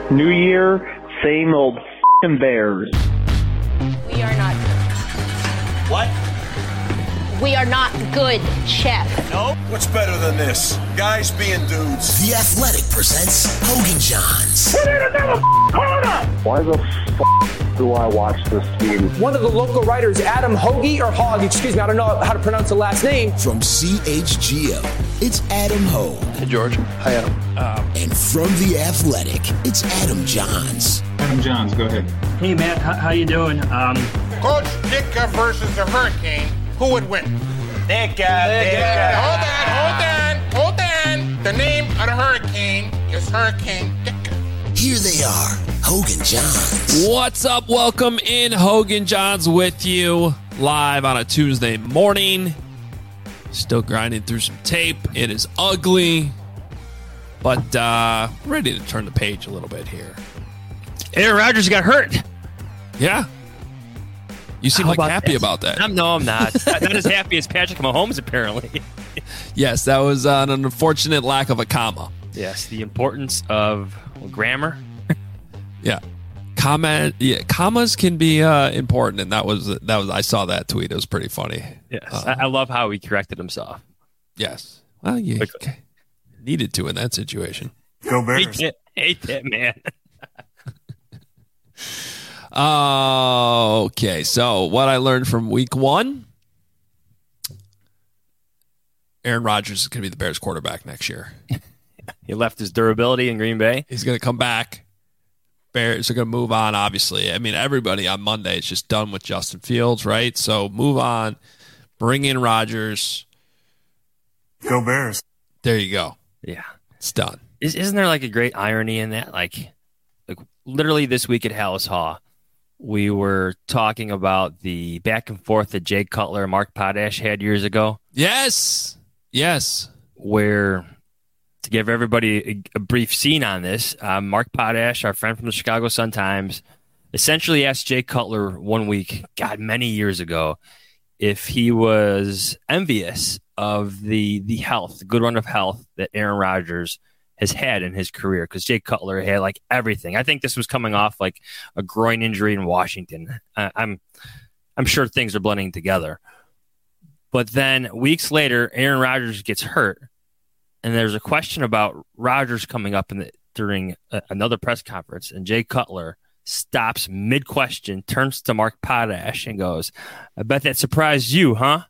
New year, same old f***ing Bears. We are not good. What? We are not good, Chef. No? What's better than this? Guys being dudes. The Athletic presents Hogan Johns. Why the f*** do I watch this team? One of the local writers, Adam Hoagie, or Hogg, excuse me, I don't know how to pronounce the last name. From CHGO, it's Adam Hogue. Hey, George. Hi, Adam. And from The Athletic, it's Adam Johns. Adam Johns, go ahead. Hey, Matt, how you doing? Coach Ditka versus the Hurricane. Who would win? Ditka. Hold on. The name of the Hurricane is Hurricane Ditka. Here they are, Hogan Johns. What's up? Welcome in. Hogan Johns with you live on a Tuesday morning. Still grinding through some tape. It is ugly, but ready to turn the page a little bit here. Aaron Rodgers got hurt. Yeah. You seem happy about that. I'm not. Not as happy as Patrick Mahomes, apparently. Yes, that was an unfortunate lack of a comma. Yes, the importance of grammar. Yeah. Commas can be important, and that was I saw that tweet. It was pretty funny. Yes, I love how he corrected himself. Yes. Well, you needed to in that situation. Go Bears. Hate that man. Okay, so what I learned from week one, Aaron Rodgers is going to be the Bears quarterback next year. He left his durability in Green Bay. He's going to come back. Bears are going to move on, obviously. I mean, everybody on Monday is just done with Justin Fields, right? So move on. Bring in Rodgers. Go Bears. There you go. Yeah. It's done. Isn't there like a great irony in that? Like literally this week at Hallis Haw, we were talking about the back and forth that Jay Cutler and Mark Potash had years ago. Yes. Where, to give everybody a brief scene on this, Mark Potash, our friend from the Chicago Sun-Times, essentially asked Jay Cutler one week, many years ago, if he was envious of the health, the good run of health that Aaron Rodgers has had in his career, because Jay Cutler had like everything. I think this was coming off like a groin injury in Washington. I'm sure things are blending together. But then weeks later, Aaron Rodgers gets hurt, and there's a question about Rodgers coming up during another press conference, and Jay Cutler stops mid-question, turns to Mark Potash, and goes, "I bet that surprised you, huh?"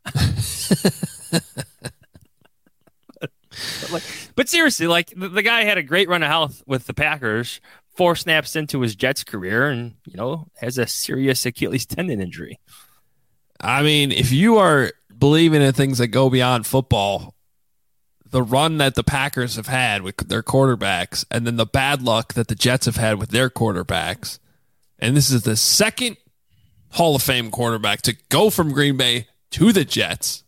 But seriously, like the guy had a great run of health with the Packers, 4 snaps into his Jets career, and has a serious Achilles tendon injury. I mean, if you are believing in things that go beyond football, the run that the Packers have had with their quarterbacks, and then the bad luck that the Jets have had with their quarterbacks, and this is the second Hall of Fame quarterback to go from Green Bay to the Jets.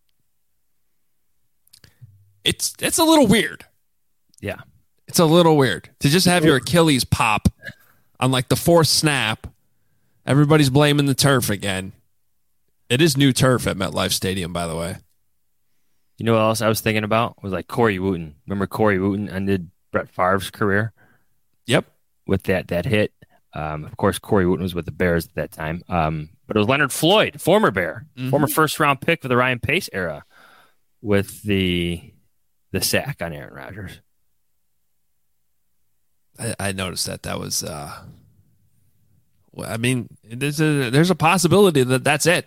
It's a little weird. Yeah. It's a little weird to just have your Achilles pop on like the 4th snap. Everybody's blaming the turf again. It is new turf at MetLife Stadium, by the way. You know what else I was thinking about? Was like Corey Wooten. Remember Corey Wooten ended Brett Favre's career? Yep. With that hit. Of course, Corey Wooten was with the Bears at that time. But it was Leonard Floyd, former Bear, former first-round pick for the Ryan Pace era, with the sack on Aaron Rodgers. I noticed that was. I mean, there's a possibility that that's it.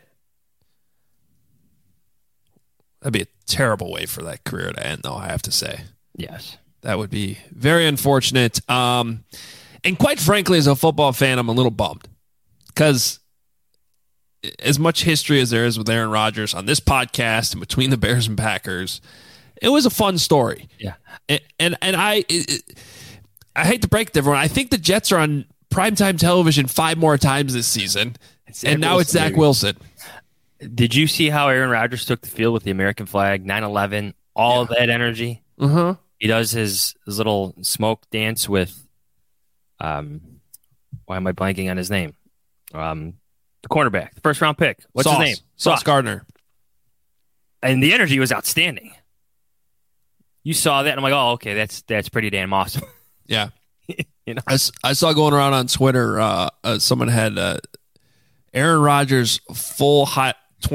That'd be a terrible way for that career to end, though, I have to say. Yes. That would be very unfortunate. And quite frankly, as a football fan, I'm a little bummed. Because as much history as there is with Aaron Rodgers on this podcast and between the Bears and Packers, it was a fun story. Yeah. And I hate to break it to everyone. I think the Jets are on primetime television 5 more times this season. And now it's Zach Wilson. Did you see how Aaron Rodgers took the field with the American flag, 9/11, all of that energy? Uh-huh. He does his little smoke dance with, why am I blanking on his name? The cornerback, the first-round pick. What's his name? Sauce Gardner. And the energy was outstanding. You saw that, and I'm like, oh, okay, that's pretty damn awesome. Yeah. You know, I saw going around on Twitter, someone had Aaron Rodgers full hot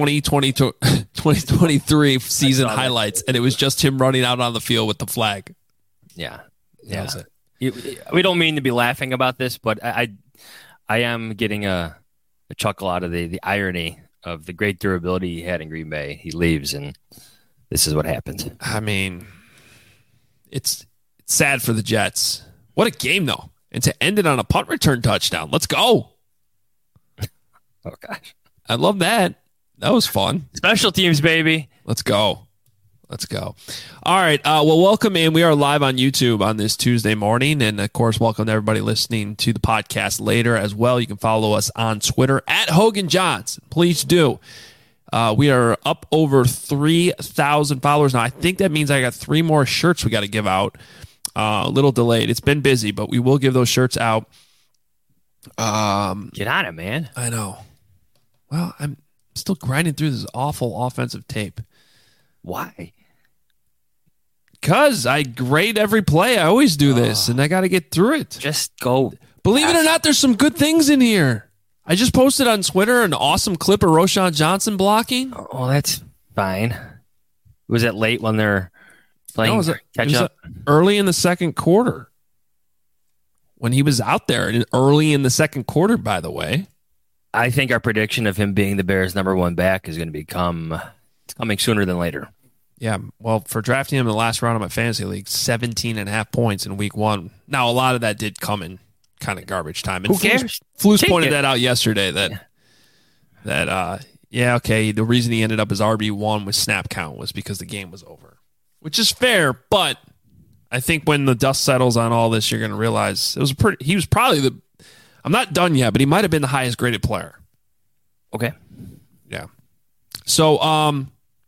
2023 season highlights, and it was just him running out on the field with the flag. Yeah. That was it. We don't mean to be laughing about this, but I am getting a chuckle out of the irony of the great durability he had in Green Bay. He leaves, and this is what happens. I mean, it's sad for the Jets. What a game, though. And to end it on a punt return touchdown. Let's go. Oh, gosh. I love that. That was fun. Special teams, baby. Let's go. All right. Well, welcome in. We are live on YouTube on this Tuesday morning. And, of course, welcome to everybody listening to the podcast later as well. You can follow us on Twitter at Hogan Johns. Please do. We are up over 3,000 followers now. I think that means I got 3 more shirts we got to give out. A little delayed. It's been busy, but we will give those shirts out. Get on it, man. I know. Well, I'm still grinding through this awful offensive tape. Why? Because I grade every play. I always do this, and I got to get through it. Just go. Believe it or not, there's some good things in here. I just posted on Twitter an awesome clip of Roschon Johnson blocking. Oh, that's fine. Was it late when they're playing catch up? Early in the second quarter. When he was out there, and early in the second quarter, by the way. I think our prediction of him being the Bears' number 1 back is going to coming sooner than later. Yeah, well, for drafting him in the last round of my fantasy league, 17.5 points in week 1. Now, a lot of that did come in kind of garbage time. And who cares? Flus pointed that out yesterday. The reason he ended up as RB1 with snap count was because the game was over, which is fair. But I think when the dust settles on all this, you're going to realize he was probably I'm not done yet, but he might have been the highest graded player. Okay. Yeah. So,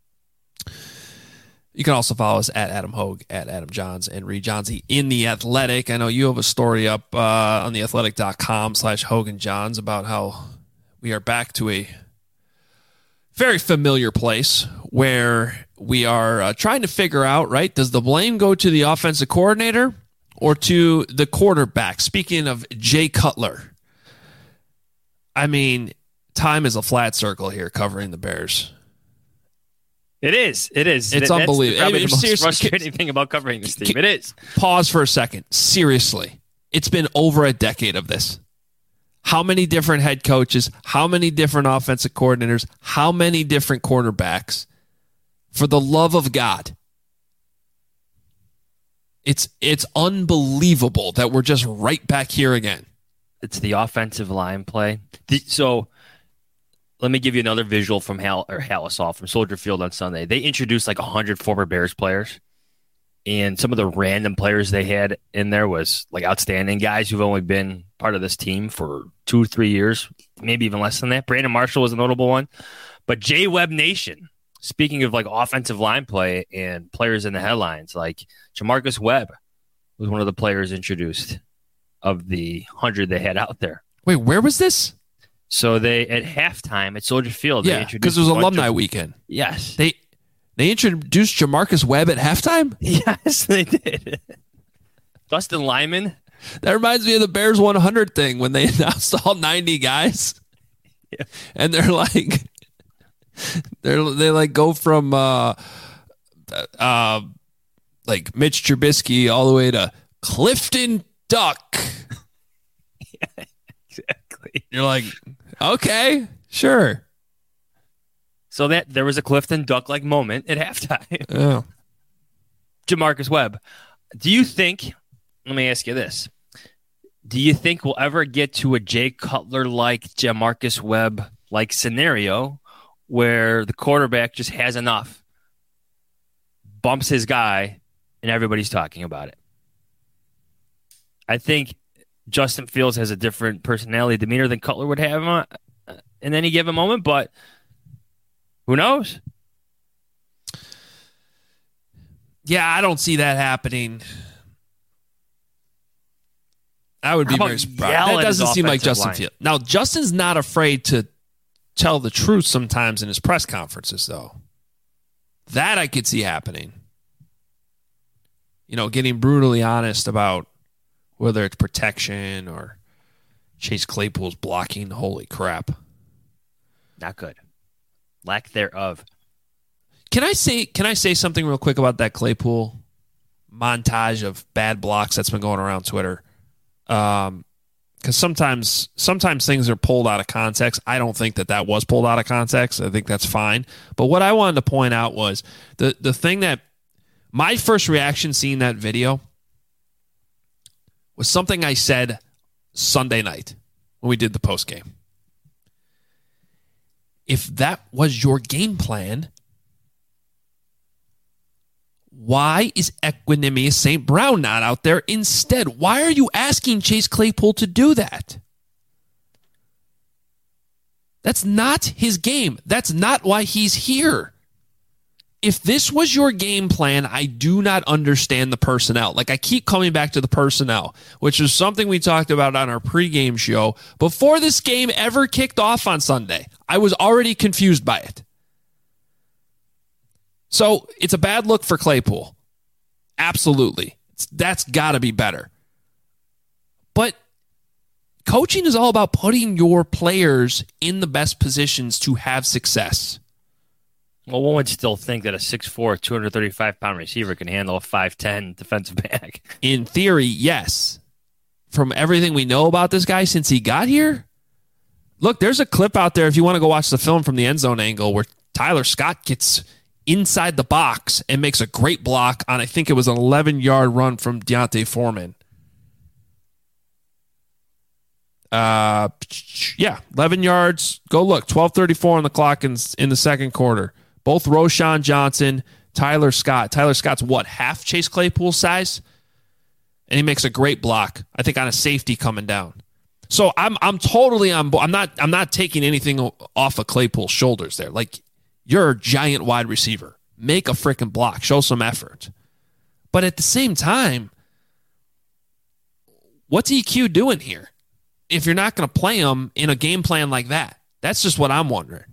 you can also follow us at Adam Hogue, at Adam Johns, and Reed Johnsy in The Athletic. I know you have a story up on theathletic.com/Hogan Johns about how we are back to a very familiar place where we are trying to figure out, right, does the blame go to the offensive coordinator or to the quarterback? Speaking of Jay Cutler, I mean, time is a flat circle here covering the Bears. It is. It's unbelievable. That's probably the most frustrating thing about covering this team. It is. Pause for a second. Seriously. It's been over a decade of this. How many different head coaches, how many different offensive coordinators, how many different quarterbacks? For the love of God. It's unbelievable that we're just right back here again. It's the offensive line play. So let me give you another visual from Hallisall from Soldier Field on Sunday. They introduced like 100 former Bears players, and some of the random players they had in there was like outstanding guys who've only been part of this team for 2-3 years, maybe even less than that. Brandon Marshall was a notable one. But J Webb Nation, speaking of like offensive line play and players in the headlines, like Jamarcus Webb was one of the players introduced of the 100 they had out there. Wait, where was this? So they at halftime at Soldier Field, yeah, because it was alumni weekend. Yes, they introduced Jamarcus Webb at halftime. Yes, they did. Dustin Lyman. That reminds me of the Bears 100 thing when they announced all 90 guys, yeah. And they're like, they go from like Mitch Trubisky all the way to Clifton Duck. Yeah, exactly. You're like, okay, sure. So that there was a Clifton Duck-like moment at halftime. Oh. Jamarcus Webb. Do you think, let me ask you this. Do you think we'll ever get to a Jay Cutler-like, Jamarcus Webb-like scenario where the quarterback just has enough, bumps his guy, and everybody's talking about it? I think Justin Fields has a different personality, demeanor than Cutler would have in any given moment, but who knows? Yeah, I don't see that happening. I would be very surprised. That doesn't seem like Justin Fields. Now, Justin's not afraid to tell the truth sometimes in his press conferences, though. That I could see happening. You know, getting brutally honest about whether it's protection or Chase Claypool's blocking. Holy crap. Not good. Lack thereof. Can I say something real quick about that Claypool montage of bad blocks that's been going around Twitter? Because sometimes things are pulled out of context. I don't think that was pulled out of context. I think that's fine. But what I wanted to point out was the thing that my first reaction seeing that video was something I said Sunday night when we did the post game. If that was your game plan, why is Equanimeous St. Brown not out there instead? Why are you asking Chase Claypool to do that? That's not his game. That's not why he's here. If this was your game plan, I do not understand the personnel. Like, I keep coming back to the personnel, which is something we talked about on our pregame show before this game ever kicked off on Sunday. I was already confused by it. So it's a bad look for Claypool. Absolutely. That's got to be better. But coaching is all about putting your players in the best positions to have success. Well, one would still think that a 6'4", 235-pound receiver can handle a 5'10" defensive back. In theory, yes. From everything we know about this guy since he got here, look, there's a clip out there if you want to go watch the film from the end zone angle where Tyler Scott gets inside the box and makes a great block on, I think it was an 11-yard run from Deontay Foreman. 11 yards. Go look. 12:34 on the clock in the second quarter. Both Roschon Johnson, Tyler Scott. Tyler Scott's what, half Chase Claypool's size? And he makes a great block, I think, on a safety coming down. So I'm totally on board. I'm not taking anything off of Claypool's shoulders there. Like, you're a giant wide receiver. Make a freaking block. Show some effort. But at the same time, what's EQ doing here? If you're not going to play him in a game plan like that, that's just what I'm wondering.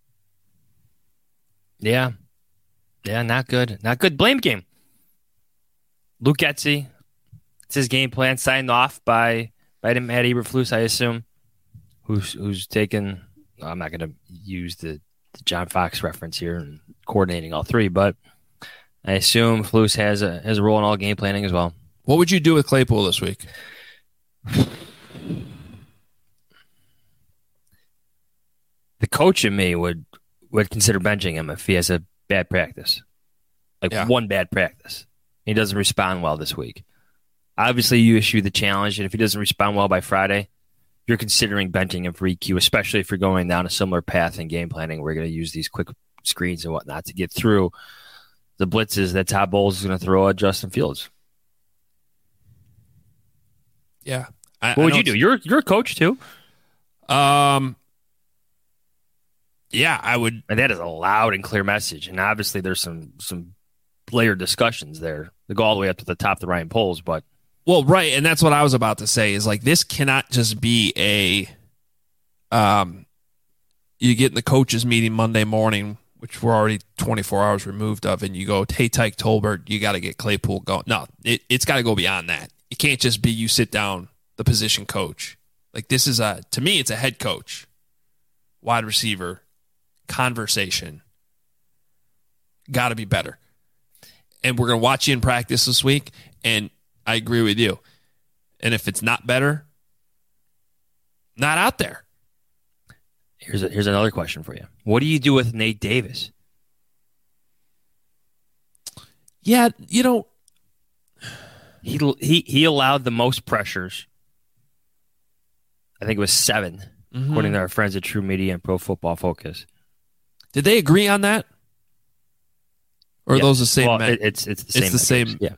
Yeah, not good. Not good. Blame game. Luke Getsy, it's his game plan signed off by Matt Eberflus, I assume, who's taken. I'm not going to use the John Fox reference here and coordinating all three, but I assume Flus has a role in all game planning as well. What would you do with Claypool this week? The coach in me would consider benching him if he has a bad practice. One bad practice. He doesn't respond well this week. Obviously, you issue the challenge, and if he doesn't respond well by Friday, you're considering benching him for EQ, especially if you're going down a similar path in game planning. We're going to use these quick screens and whatnot to get through the blitzes that Todd Bowles is going to throw at Justin Fields. Yeah. What would you do? You're a coach too. Yeah, I would. And that is a loud and clear message. And obviously there's some layered discussions there. They go all the way up to the top of the Ryan polls, but. Well, right. And that's what I was about to say is, like, this cannot just be you get in the coaches meeting Monday morning, which we're already 24 hours removed of, and you go, hey, Tyke Tolbert, you got to get Claypool going. No, it's got to go beyond that. It can't just be you sit down the position coach. Like, this is to me, it's a head coach, wide receiver, conversation. Got to be better. And we're going to watch you in practice this week, and I agree with you. And if it's not better, not out there. Here's another question for you. What do you do with Nate Davis? Yeah, he allowed the most pressures. I think it was 7, according to our friends at True Media and Pro Football Focus. Did they agree on that? Or are those the same? Well, it's the same. It's the same. Yeah.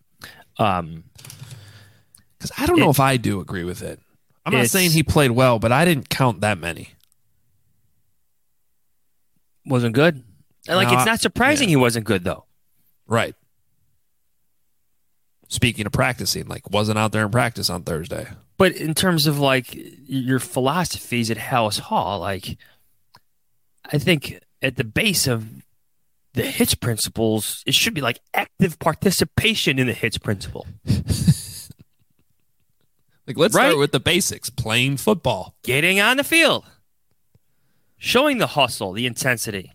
Because I don't know if I do agree with it. I'm not saying he played well, but I didn't count that many. Wasn't good. Like, it's not surprising he wasn't good, though. Right. Speaking of practicing, like, wasn't out there in practice on Thursday. But in terms of, like, your philosophies at Hallis Hall, like, I think at the base of the HITS principles, it should be like active participation in the HITS principle. Like, let's Right. start with the basics. Playing football. Getting on the field. Showing the hustle, the intensity.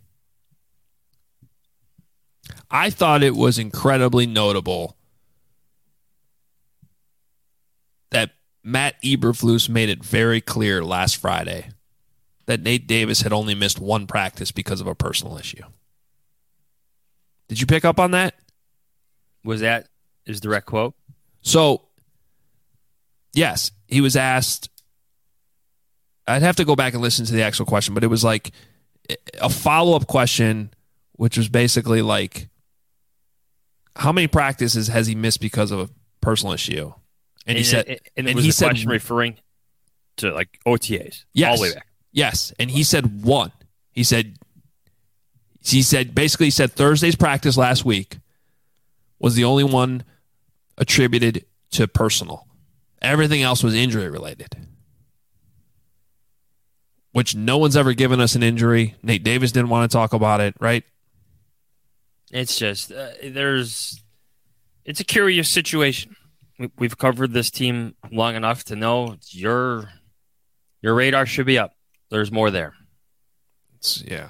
I thought it was incredibly notable that Matt Eberflus made it very clear last Friday that Nate Davis had only missed one practice because of a personal issue. Did you pick up on that? Was that his direct quote? So, yes, he was asked. I'd have to go back and listen to the actual question, but it was like a follow-up question, which was basically like, how many practices has he missed because of a personal issue? And he said, was the question referring to like OTAs yes, all the way back. Yes, and he said one. He said basically he said Thursday's practice last week was the only one attributed to personal. Everything else was injury related. Which no one's ever given us an injury. Nate Davis didn't want to talk about it, right? It's just it's a curious situation. We've covered this team long enough to know your radar should be up. There's more there. Yeah.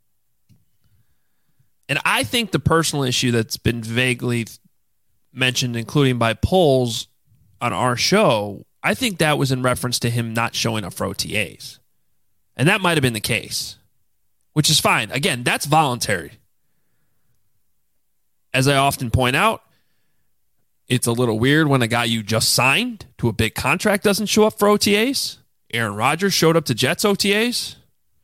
And I think the personal issue that's been vaguely mentioned, including by polls on our show, I think that was in reference to him not showing up for OTAs. And that might have been the case, which is fine. Again, that's voluntary. As I often point out, it's a little weird when a guy you just signed to a big contract doesn't show up for OTAs. Aaron Rodgers showed up to Jets OTAs.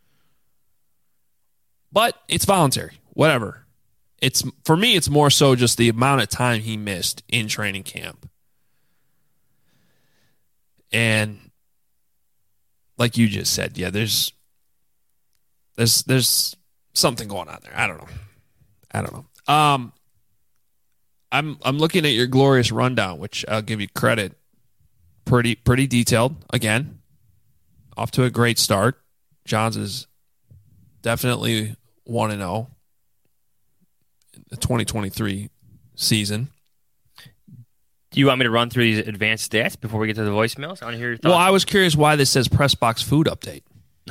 But it's voluntary. Whatever. For me, it's more so just the amount of time he missed in training camp. And like you just said, yeah, there's something going on there. I don't know. I'm looking at your glorious rundown, which I'll give you credit. Pretty detailed. Again, off to a great start. Johns is definitely 1-0 in the 2023 season. Do you want me to run through these advanced stats before we get to the voicemails? I want to hear your thoughts. Well, I was curious why this says press box food update.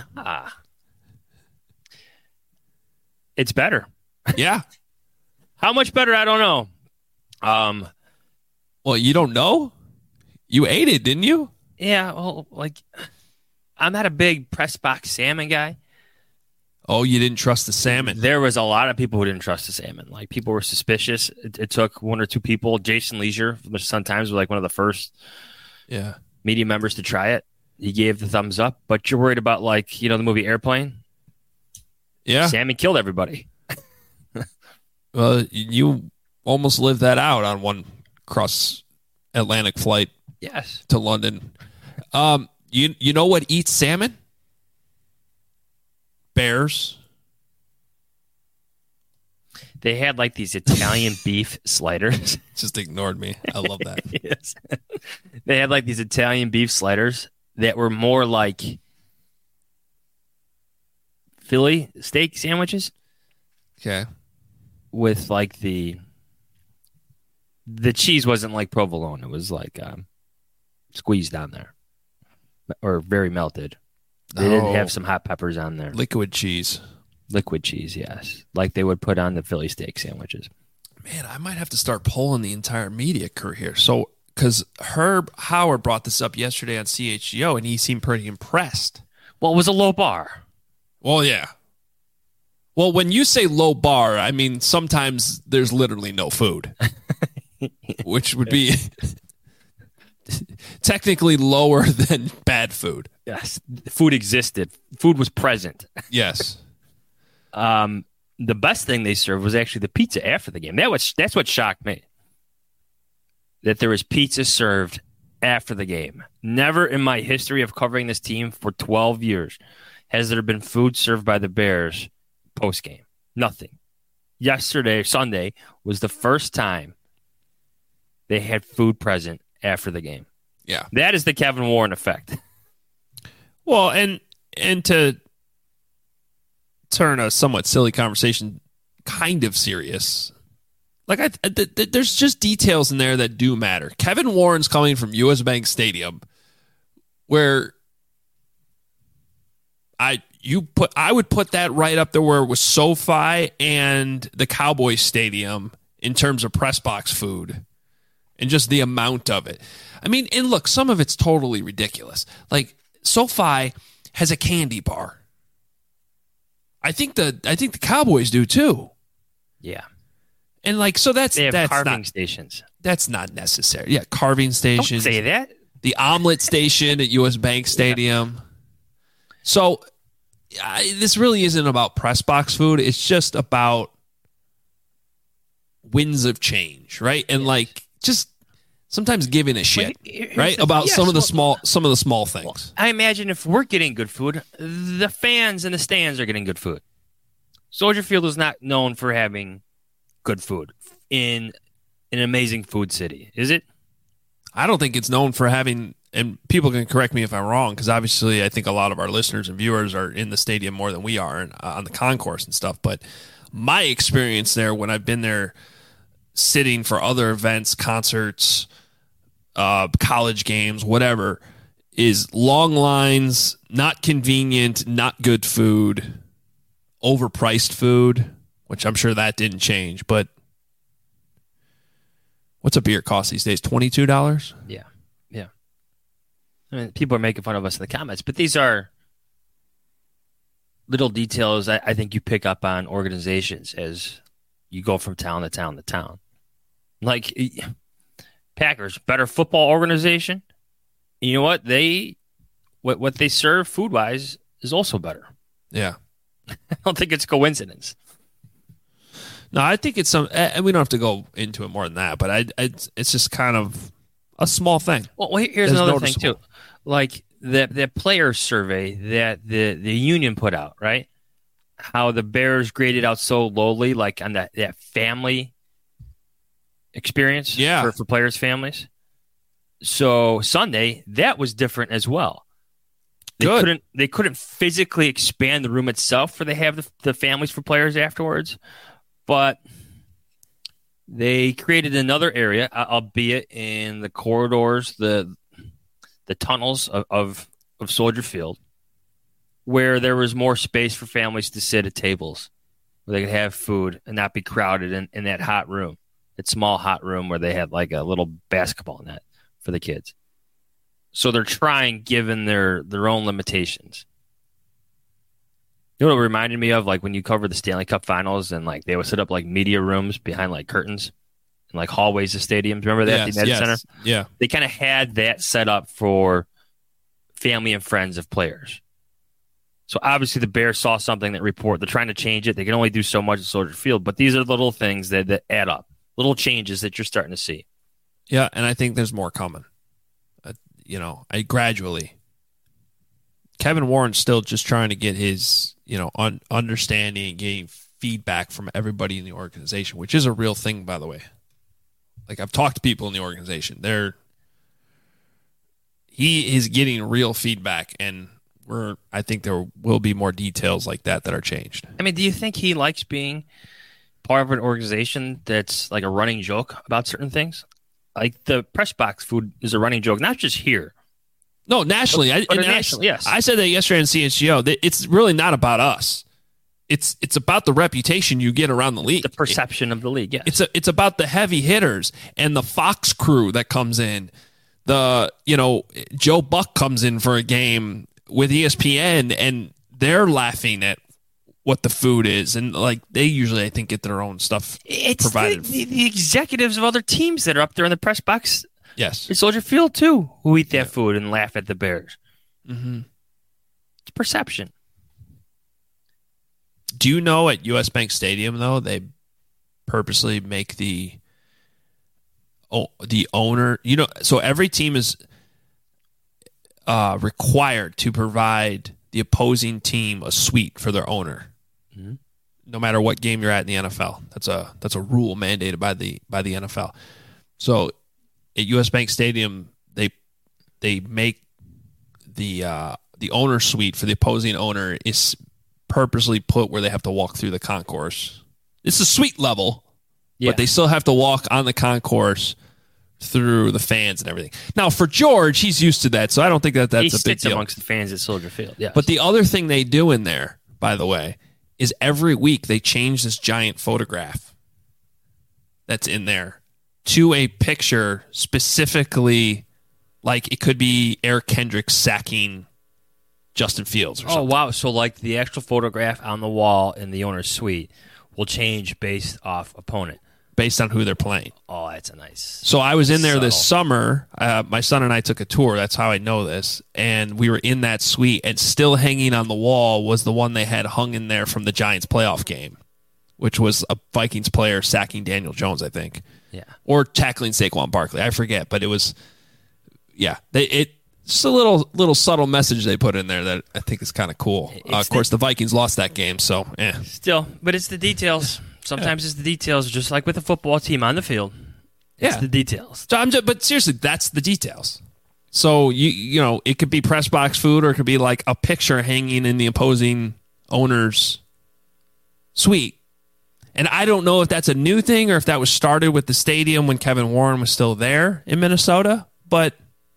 It's better. Yeah. How much better? I don't know. Well, you don't know? You ate it, didn't you? Yeah. Well, like, I'm not a big press box salmon guy. Oh, you didn't trust the salmon. There was a lot of people who didn't trust the salmon. Like, people were suspicious. It took one or two people. Jason Leisure from the Sun-Times was like one of the first media members to try it. He gave the thumbs up. But you're worried about, like, the movie Airplane? Yeah. Salmon killed everybody. Well, you almost lived that out on one cross-Atlantic flight. Yes. To London. You know what eats salmon? Bears. They had like these Italian beef sliders. Just ignored me. I love that. Yes. They had like these Italian beef sliders that were more like Philly steak sandwiches. Okay. With like the cheese wasn't like provolone. It was like squeezed on there or very melted. They didn't have some hot peppers on there. Liquid cheese. Liquid cheese, yes. Like they would put on the Philly steak sandwiches. Man, I might have to start polling the entire media crew here. So, because Herb Howard brought this up yesterday on CHGO, and he seemed pretty impressed. Well, it was a low bar. Well, yeah. Well, when you say low bar, I mean sometimes there's literally no food, which would be technically lower than bad food. Yes, food existed. Food was present. Yes. The best thing they served was actually the pizza after the game. That's what shocked me. That there was pizza served after the game. Never in my history of covering this team for 12 years has there been food served by the Bears post-game. Nothing. Yesterday, Sunday, was the first time they had food present after the game. Yeah. That is the Kevin Warren effect. Well, and to turn a somewhat silly conversation kind of serious, like there's just details in there that do matter. Kevin Warren's coming from US Bank Stadium where I would put that right up there where it was SoFi and the Cowboys Stadium in terms of press box food and just the amount of it. I mean, and look, some of it's totally ridiculous. Like SoFi has a candy bar. I think the Cowboys do too. Yeah. And like, so that's they have that's carving not, stations. That's not necessary. Yeah, carving stations. Don't say that. The omelet station at US Bank Stadium. Yeah. So this really isn't about press box food. It's just about winds of change, right? And like just sometimes giving a shit, right? About some of the small things. Well, I imagine if we're getting good food, the fans in the stands are getting good food. Soldier Field is not known for having good food in an amazing food city, is it? I don't think it's known for having, and people can correct me if I'm wrong, because obviously I think a lot of our listeners and viewers are in the stadium more than we are and, on the concourse and stuff. But my experience there, when I've been there sitting for other events, concerts, college games, whatever, is long lines, not convenient, not good food, overpriced food, which I'm sure that didn't change. But what's a beer cost these days? $22? Yeah. I mean, people are making fun of us in the comments, but these are little details I think you pick up on organizations as you go from town to town to town. Like Packers, better football organization. You know what? What they serve food-wise is also better. Yeah. I don't think it's coincidence. No, I think it's some, and we don't have to go into it more than that, but it's just kind of a small thing. Well, here's another thing too, like the player survey that the union put out, right? How the Bears graded out so lowly, like on that family experience, for players' families. So Sunday, that was different as well. They couldn't physically expand the room itself, where they have the families for players afterwards. But they created another area, albeit in the corridors, the tunnels of Soldier Field, where there was more space for families to sit at tables, where they could have food and not be crowded in that hot room, that small hot room where they had like a little basketball net for the kids. So they're trying, given their own limitations. You know what it reminded me of? Like when you cover the Stanley Cup Finals and like they would set up like media rooms behind like curtains and like hallways of stadiums. Remember that? Yes, the United Center? Yeah. They kind of had that set up for family and friends of players. So obviously the Bears saw something that they're trying to change it. They can only do so much at Soldier Field, but these are little things that add up, little changes that you're starting to see. Yeah, and I think there's more coming. Gradually. Kevin Warren's still just trying to get his, understanding and getting feedback from everybody in the organization, which is a real thing, by the way. Like, I've talked to people in the organization. He is getting real feedback, and I think there will be more details like that are changed. I mean, do you think he likes being part of an organization that's like a running joke about certain things? Like the press box food is a running joke, not just here. No, nationally. Nationally, yes. I said that yesterday on CHGO. It's really not about us. It's about the reputation you get around the league. The perception of the league, yeah. It's about the heavy hitters and the Fox crew that comes in. Joe Buck comes in for a game with ESPN and they're laughing at what the food is, and like they usually, I think, get their own stuff provided. The executives of other teams that are up there in the press box, yes, at Soldier Field too, who eat that food and laugh at the Bears. Mm-hmm. It's perception. Do you know at US Bank Stadium though they purposely make the owner? So every team is required to provide the opposing team a suite for their owner. Mm-hmm. No matter what game you're at in the NFL. That's a rule mandated by the NFL. So at US Bank Stadium, they make the owner suite for the opposing owner is purposely put where they have to walk through the concourse. It's a suite level, but they still have to walk on the concourse through the fans and everything. Now, for George, he's used to that, so I don't think that's He a big sits deal. amongst the fans at Soldier Field. Yes. But the other thing they do in there, by the way, is every week they change this giant photograph that's in there to a picture specifically, like it could be Eric Kendricks sacking Justin Fields or something. Oh, wow. So, like, the actual photograph on the wall in the owner's suite will change based off opponent. Based on who they're playing. Oh, that's a nice. So I was in there this Subtle. summer. My son and I took a tour. That's how I know this. And we were in that suite, and still hanging on the wall was the one they had hung in there from the Giants playoff game, which was a Vikings player sacking Daniel Jones, I think. Yeah. Or tackling Saquon Barkley. I forget, but it was, yeah. Just a little subtle message they put in there that I think is kind of cool. Of course, the Vikings lost that game, so Still, but it's the details. Sometimes it's the details, just like with a football team on the field. It's the details. So but seriously, that's the details. So you know, it could be press box food, or it could be like a picture hanging in the opposing owner's suite. And I don't know if that's a new thing or if that was started with the stadium when Kevin Warren was still there in Minnesota, but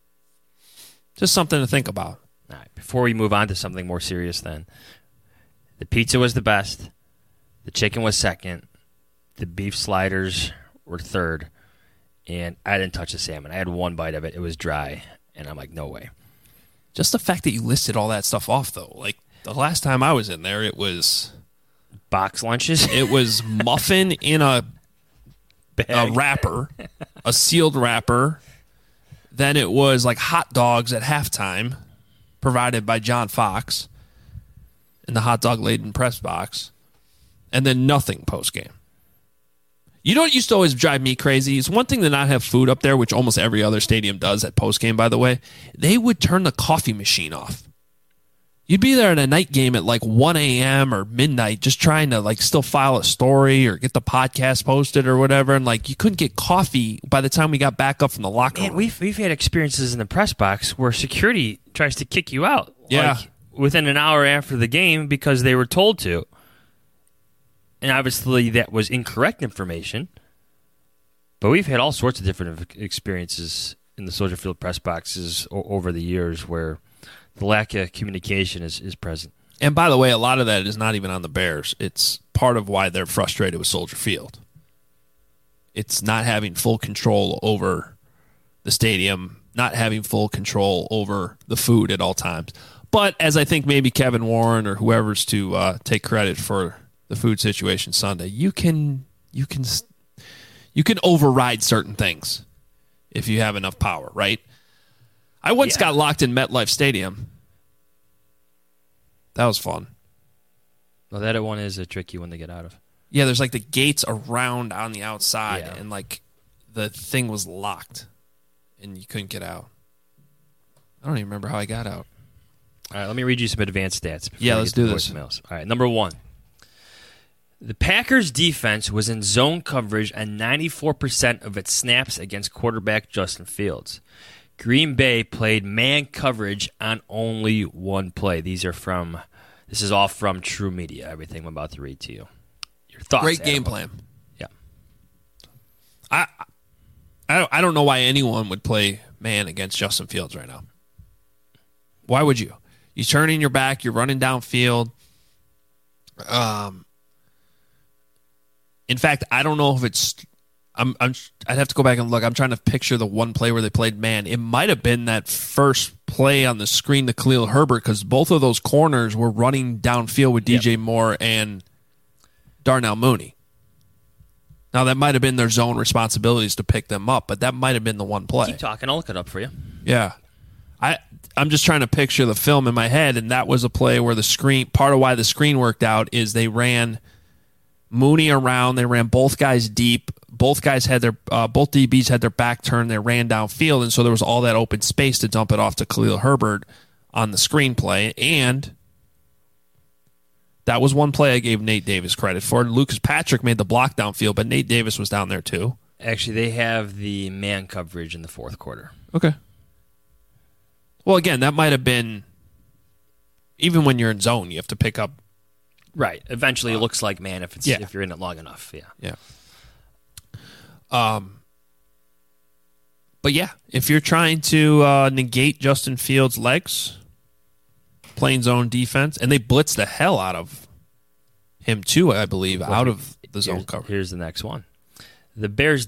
just something to think about. All right, before we move on to something more serious then, the pizza was the best. The chicken was second. The beef sliders were third. And I didn't touch the salmon. I had one bite of it. It was dry. And I'm like, no way. Just the fact that you listed all that stuff off, though. Like, the last time I was in there, it was box lunches. It was muffin in a wrapper, a sealed wrapper. Then it was like hot dogs at halftime, provided by John Fox in the hot dog laden press box. And then nothing post-game. You know what used to always drive me crazy? It's one thing to not have food up there, which almost every other stadium does at post-game, by the way. They would turn the coffee machine off. You'd be there at a night game at like 1 a.m. or midnight just trying to like still file a story or get the podcast posted or whatever, and like you couldn't get coffee by the time we got back up from the locker room. We've had experiences in the press box where security tries to kick you out. Yeah. Like, within an hour after the game because they were told to. And obviously that was incorrect information. But we've had all sorts of different experiences in the Soldier Field press boxes over the years where the lack of communication is present. And by the way, a lot of that is not even on the Bears. It's part of why they're frustrated with Soldier Field. It's not having full control over the stadium, not having full control over the food at all times. But as I think maybe Kevin Warren or whoever's to take credit for the food situation Sunday, you can override certain things if you have enough power, right? I once got locked in MetLife Stadium. That was fun. Well, that one is a tricky one to get out of. Yeah, there's like the gates around on the outside, Yeah. and like the thing was locked, and you couldn't get out. I don't even remember how I got out. All right, let me read you some advanced stats. Yeah, let's do this. Voicemails. All right, number one. The Packers' defense was in zone coverage on 94% of its snaps against quarterback Justin Fields. Green Bay played man coverage on only one play. This is all from True Media, everything I'm about to read to you. Your thoughts, Great Adam? game plan. Yeah. I don't know why anyone would play man against Justin Fields right now. Why would you? You turn in your back, you're running downfield. In fact, I don't know if it's. I'd have to go back and look. I'm trying to picture the one play where they played man. It might have been that first play on the screen to Khalil Herbert because both of those corners were running downfield with DJ Moore and Darnell Mooney. Now, that might have been their zone responsibilities to pick them up, but that might have been the one play. Keep talking. I'll look it up for you. Yeah. I'm just trying to picture the film in my head, and that was a play where the screen, part of why the screen worked out is they ran Mooney around, they ran both guys deep, both guys had their, both DBs had their back turned, they ran downfield, and so there was all that open space to dump it off to Khalil Herbert on the screenplay, and that was one play I gave Nate Davis credit for. Lucas Patrick made the block downfield, but Nate Davis was down there too. Actually, they have the man coverage in the fourth quarter. Okay. Well, again, that might have been, even when you're in zone, you have to pick up. Right. Eventually, it looks like man if you're in it long enough. Yeah. Yeah. But yeah, if you're trying to negate Justin Fields' legs, playing zone defense, and they blitz the hell out of him too, I believe, out of the zone cover. Here's the next one. The Packers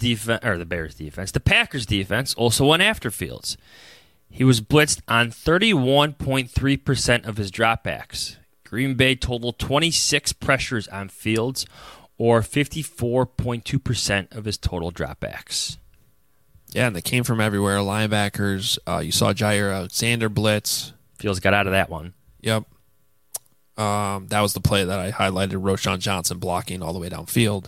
defense also went after Fields. He was blitzed on 31.3% of his dropbacks. Green Bay totaled 26 pressures on Fields, or 54.2% of his total dropbacks. Yeah, and they came from everywhere. Linebackers. You saw Jair Alexander blitz. Fields got out of that one. Yep. That was the play that I highlighted. Roschon Johnson blocking all the way downfield.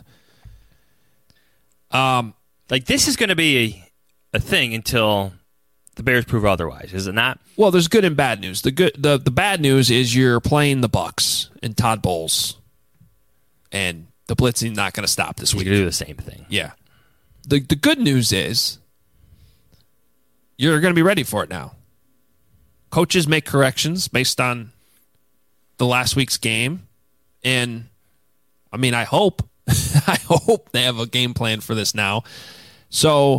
This is going to be a thing until the Bears prove otherwise, is it not? Well, there's good and bad news. The bad news is you're playing the Bucs and Todd Bowles, and the blitzing not going to stop this He's week. going to do the same thing. Yeah. The good news is you're going to be ready for it now. Coaches make corrections based on the last week's game, and I hope I hope they have a game plan for this now. So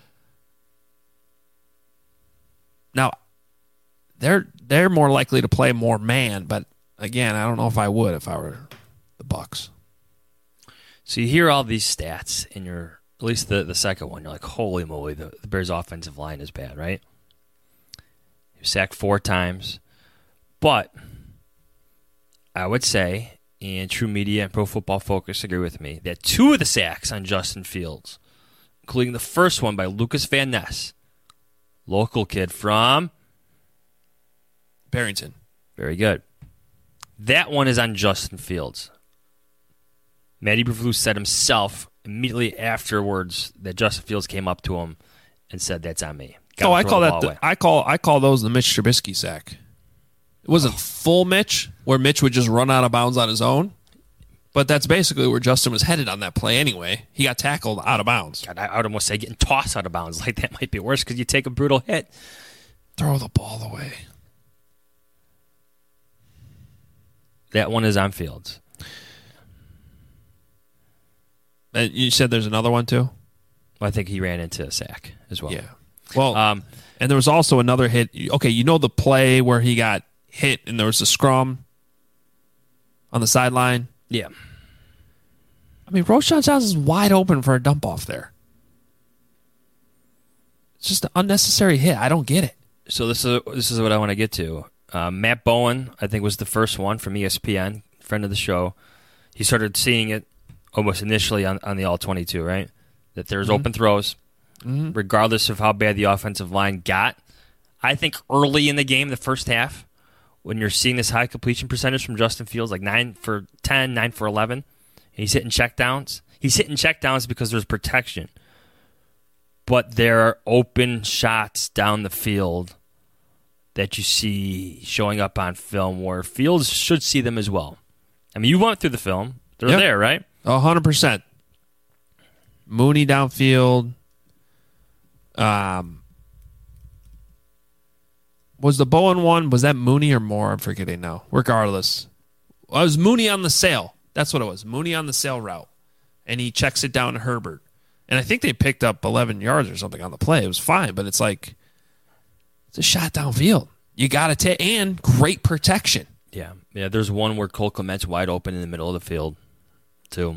now they're more likely to play more man, but again, I don't know if I would if I were the Bucs. So you hear all these stats in your, at least the second one, you're like, holy moly, the Bears' offensive line is bad, right? He was sacked 4 times, but I would say, and True Media and Pro Football Focus agree with me, that 2 of the sacks on Justin Fields, including the first one by Lucas Van Ness, local kid from Barrington. Very good. That one is on Justin Fields. Matty Eberflus said himself immediately afterwards that Justin Fields came up to him and said, "That's on me." I call that I call those the Mitch Trubisky sack. It wasn't full Mitch, where Mitch would just run out of bounds on his own, but that's basically where Justin was headed on that play anyway. He got tackled out of bounds. God, I would almost say getting tossed out of bounds. Like, that might be worse because you take a brutal hit. Throw the ball away. That one is on Fields. And you said there's another one too? I think he ran into a sack as well. Yeah. Well, and there was also another hit. Okay, you know the play where he got hit and there was a scrum on the sideline? Yeah. Roschon Johnson's wide open for a dump off there. It's just an unnecessary hit. I don't get it. So this is what I want to get to. Matt Bowen, I think, was the first one from ESPN, friend of the show. He started seeing it almost initially on the All-22, right? That there's open throws, regardless of how bad the offensive line got. I think early in the game, the first half, when you're seeing this high completion percentage from Justin Fields, like 9 for 10, 9 for 11, and he's hitting checkdowns. He's hitting checkdowns because there's protection. But there are open shots down the field that you see showing up on film where Fields should see them as well. You went through the film. They're there, right? 100%. Mooney downfield. Was the Bowen one, was that Mooney or Moore? I'm forgetting now. Regardless. It was Mooney on the sail. That's what it was. Mooney on the sail route. And he checks it down to Herbert. And I think they picked up 11 yards or something on the play. It was fine, but it's like, it's a shot downfield. You got to take, and great protection. Yeah. There's one where Cole Kmet's wide open in the middle of the field, too.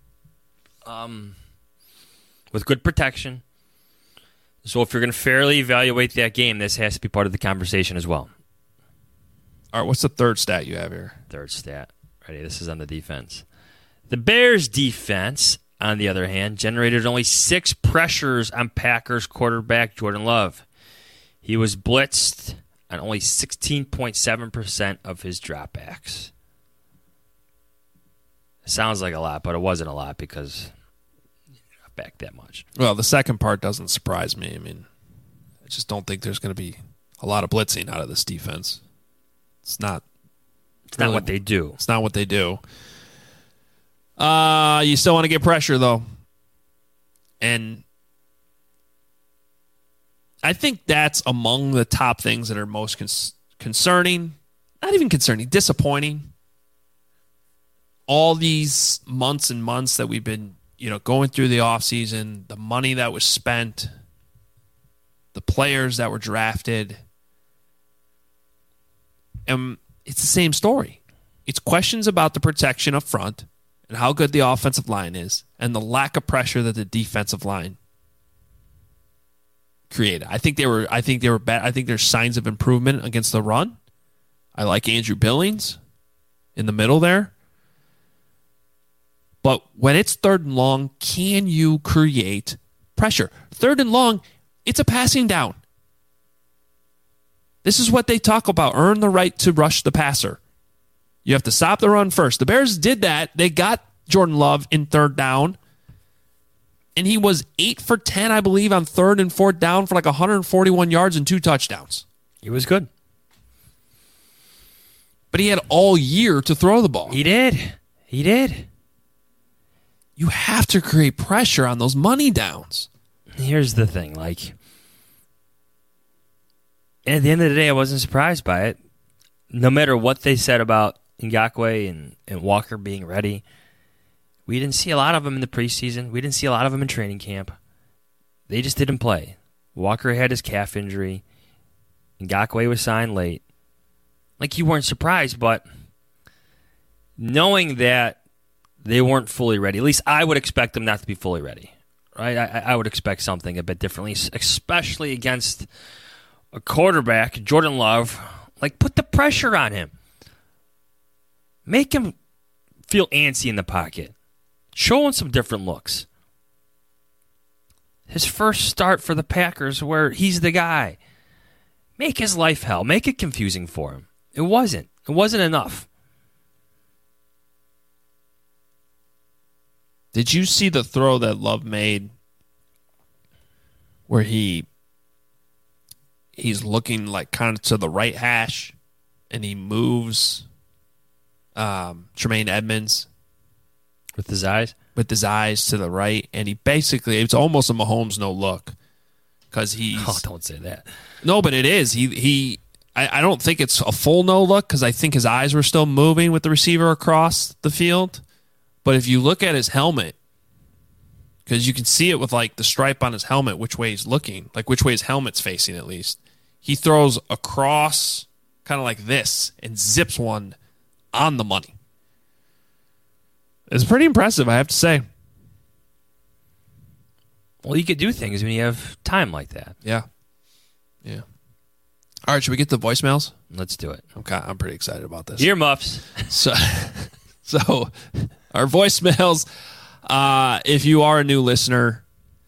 With good protection. So if you're going to fairly evaluate that game, this has to be part of the conversation as well. All right, what's the third stat you have here? Third stat. Ready? This is on the defense. The Bears' defense, on the other hand, generated only 6 pressures on Packers quarterback Jordan Love. He was blitzed on only 16.7% of his dropbacks. It sounds like a lot, but it wasn't a lot because not back that much. Well, the second part doesn't surprise me. I just don't think there's going to be a lot of blitzing out of this defense. It's not what they do. It's not what they do. You still want to get pressure, though. And I think that's among the top things that are most concerning. Not even concerning, disappointing. All these months and months that we've been, going through the offseason, the money that was spent, the players that were drafted. And it's the same story. It's questions about the protection up front and how good the offensive line is and the lack of pressure that the defensive line created. I think they were bad. I think there's signs of improvement against the run. I like Andrew Billings in the middle there. But when it's 3rd and long, can you create pressure? 3rd and long, it's a passing down. This is what they talk about. Earn the right to rush the passer. You have to stop the run first. The Bears did that. They got Jordan Love in 3rd down. And he was 8 for 10, I believe, on 3rd and 4th down for like 141 yards and 2 touchdowns. He was good. But he had all year to throw the ball. He did. You have to create pressure on those money downs. Here's the thing, like, at the end of the day, I wasn't surprised by it. No matter what they said about Ngakoue and Walker being ready, we didn't see a lot of them in the preseason. We didn't see a lot of them in training camp. They just didn't play. Walker had his calf injury. Ngakoue was signed late. Like, you weren't surprised, but knowing that they weren't fully ready, at least I would expect them not to be fully ready. Right? I would expect something a bit differently, especially against a quarterback, Jordan Love. Like, put the pressure on him. Make him feel antsy in the pocket. Show him some different looks. His first start for the Packers where he's the guy. Make his life hell. Make it confusing for him. It wasn't. It wasn't enough. Did you see the throw that Love made where he's looking like kind of to the right hash and he moves Tremaine Edmonds with his eyes to the right, and he basically, it's almost a Mahomes no look because he's don't say that. No, but it is. I don't think it's a full no look because I think his eyes were still moving with the receiver across the field. But if you look at his helmet, because you can see it with like the stripe on his helmet, which way he's looking, like which way his helmet's facing at least, he throws across kind of like this and zips one on the money. It's pretty impressive, I have to say. Well, you could do things when you have time like that. Yeah. All right, should we get the voicemails? Let's do it. Okay, I'm pretty excited about this. Earmuffs. So our voicemails, if you are a new listener,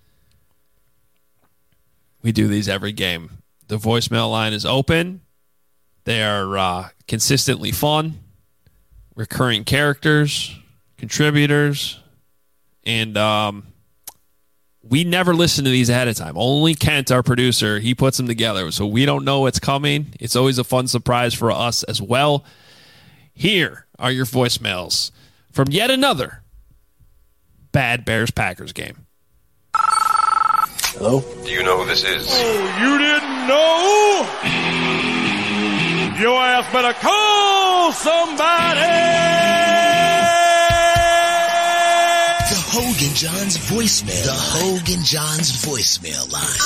we do these every game. The voicemail line is open. They are consistently fun, recurring characters, contributors, and we never listen to these ahead of time. Only Kent, our producer, he puts them together, so we don't know what's coming. It's always a fun surprise for us as well. Here are your voicemails from yet another bad Bears-Packers game. Hello? Do you know who this is? Oh, you didn't know? Your ass better call somebody! The Hogan Johns voicemail. The Hogan Johns voicemail line.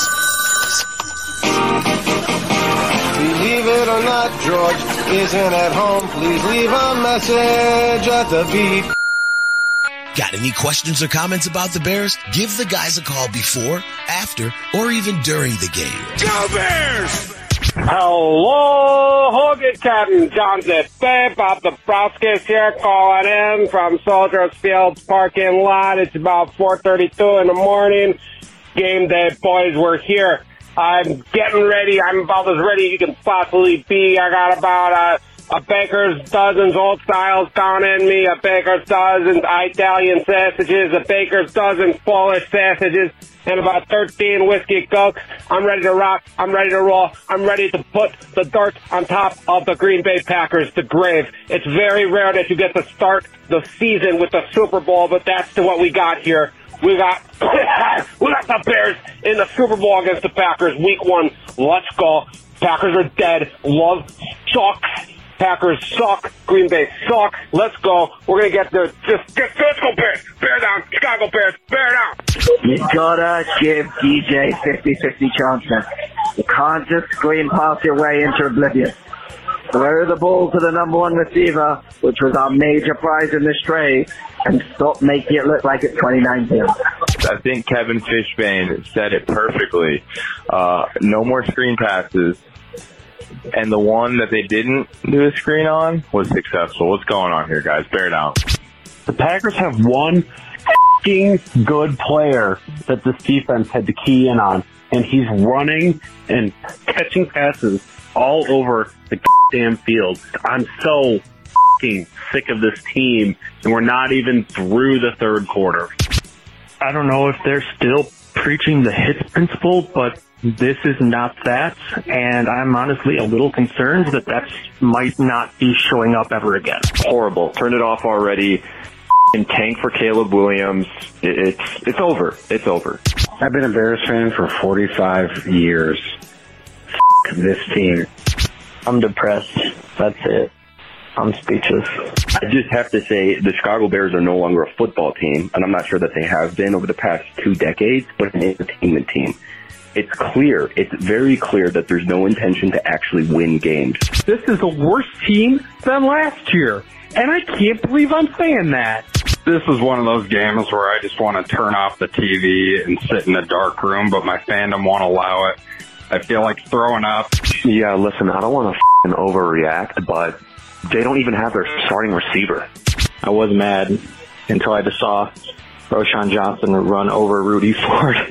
Believe it or not, George isn't at home. Please leave a message at the beep. Got any questions or comments about the Bears? Give the guys a call before, after, or even during the game. Go Bears! Hello, Hogan Captain Johnson. Bob Dabrowski here calling in from Soldiers Field parking lot. It's about 4:32 in the morning. Game day, boys. We're here. I'm getting ready. I'm about as ready as you can possibly be. I got about a baker's dozen old styles down in me, a baker's dozen Italian sausages, a baker's dozen Polish sausages, and about 13 whiskey cokes. I'm ready to rock. I'm ready to roll. I'm ready to put the dirt on top of the Green Bay Packers, the grave. It's very rare that you get to start the season with the Super Bowl, but that's what we got here. We got the Bears in the Super Bowl against the Packers, week 1. Let's go. Packers are dead. Love sucks. Packers suck. Green Bay suck. Let's go. We're going to get there. Let's go Bears. Bear down. Chicago Bears. Bear down. You gotta give DJ 50-50 chances. You can't just screen pass your way into oblivion. Throw the ball to the number one receiver, which was our major prize in this trade, and stop making it look like it's 2019. I think Kevin Fishbane said it perfectly. No more screen passes. And the one that they didn't do a screen on was successful. What's going on here, guys? Bear down. The Packers have one good player that this defense had to key in on, and he's running and catching passes all over the damn field. I'm so sick of this team, and we're not even through the third quarter. I don't know if they're still preaching the hits principle, but this is not that, and I'm honestly a little concerned that might not be showing up ever again. Horrible. Turn it off already. Tank for Caleb Williams. It's over. It's over. I've been a Bears fan for 45 years. This team. I'm depressed. That's it. I'm speechless. I just have to say the Chicago Bears are no longer a football team, and I'm not sure that they have been over the past 2 decades, but an entertainment team. It's clear, it's very clear that there's no intention to actually win games. This is a worse team than last year, and I can't believe I'm saying that. This is one of those games where I just want to turn off the TV and sit in a dark room, but my fandom won't allow it. I feel like throwing up. Yeah, listen, I don't want to overreact, but they don't even have their starting receiver. I was mad until I just saw Roschon Johnson run over Rudy Ford.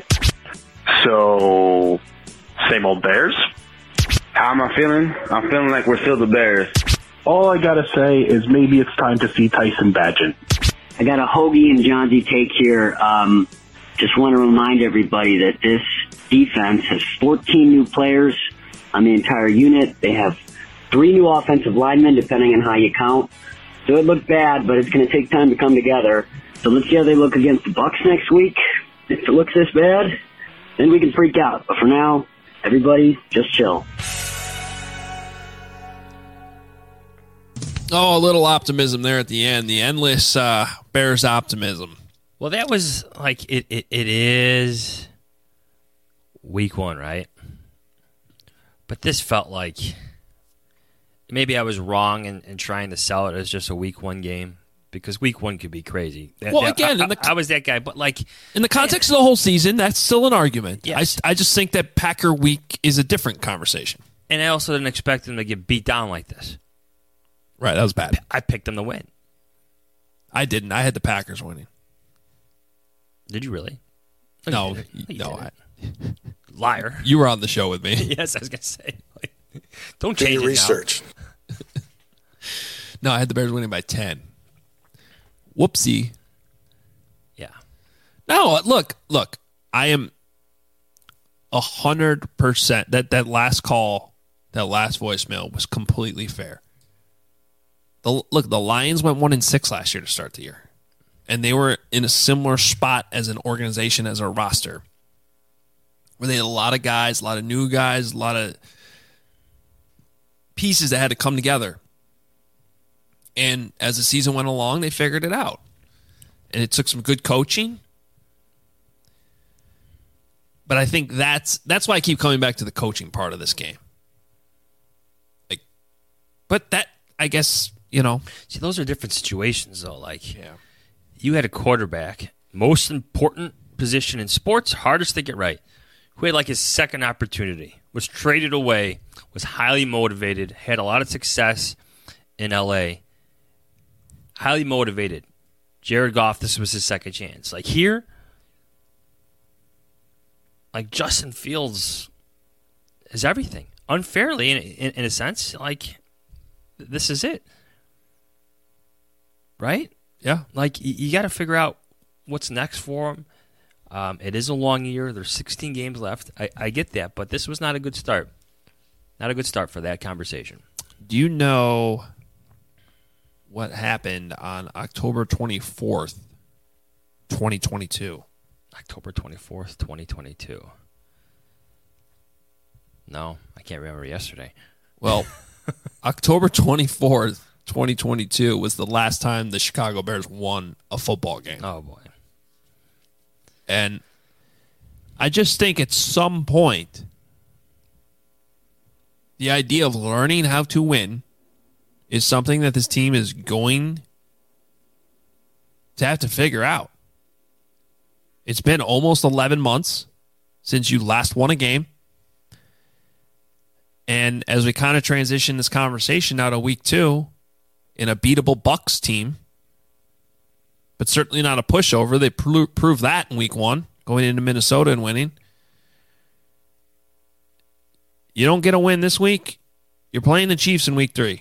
So, same old Bears? How am I feeling? I'm feeling like we're still the Bears. All I gotta say is maybe it's time to see Tyson Bagent. I got a Hoagie and Johnsy take here. Just want to remind everybody that this defense has 14 new players on the entire unit. They have 3 new offensive linemen, depending on how you count. So it looked bad, but it's going to take time to come together. So let's see how they look against the Bucs next week. If it looks this bad, then we can freak out. But for now, everybody just chill. Oh, a little optimism there at the end. The endless Bears optimism. Well, that was like it is week 1, right? But this felt like maybe I was wrong in trying to sell it as just a week 1 game, because week 1 could be crazy. I was that guy, but like in the context of the whole season, that's still an argument. Yes. I just think that Packer week is a different conversation. And I also didn't expect them to get beat down like this. Right, that was bad. I picked them to win. I didn't. I had the Packers winning. Did you really? No. Liar. You were on the show with me. Yes, I was going to say. Don't change your research. No, I had the Bears winning by 10. Whoopsie. Yeah. No, look. I am 100%. That last call, that last voicemail was completely fair. The Lions went 1-6 last year to start the year, and they were in a similar spot as an organization, as a roster, where they had a lot of guys, a lot of new guys, a lot of pieces that had to come together. And as the season went along, they figured it out, and it took some good coaching. But I think that's why I keep coming back to the coaching part of this game. But that, I guess. See, those are different situations, though. You had a quarterback, most important position in sports, hardest to get right, who had his second opportunity, was traded away, was highly motivated, had a lot of success in L.A., highly motivated. Jared Goff, this was his second chance. Here, Justin Fields is everything. Unfairly, in a sense, this is it. Right? Yeah. You got to figure out what's next for him. It is a long year. There's 16 games left. I get that, but this was not a good start. Not a good start for that conversation. Do you know what happened on October 24th, 2022? October 24th, 2022. No, I can't remember yesterday. Well, October 24th, 2022 was the last time the Chicago Bears won a football game. Oh, boy. And I just think at some point, the idea of learning how to win is something that this team is going to have to figure out. It's been almost 11 months since you last won a game. And as we kind of transition this conversation now to week 2, in a beatable Bucs team, but certainly not a pushover. They proved that in week 1, going into Minnesota and winning. You don't get a win this week, you're playing the Chiefs in week 3.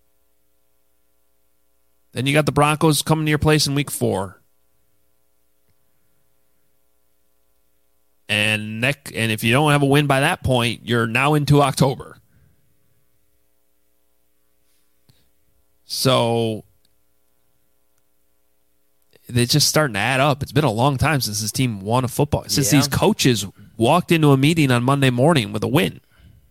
Then you got the Broncos coming to your place in week 4. And if you don't have a win by that point, you're now into October. So they're just starting to add up. It's been a long time since this team won a football. Since these coaches walked into a meeting on Monday morning with a win.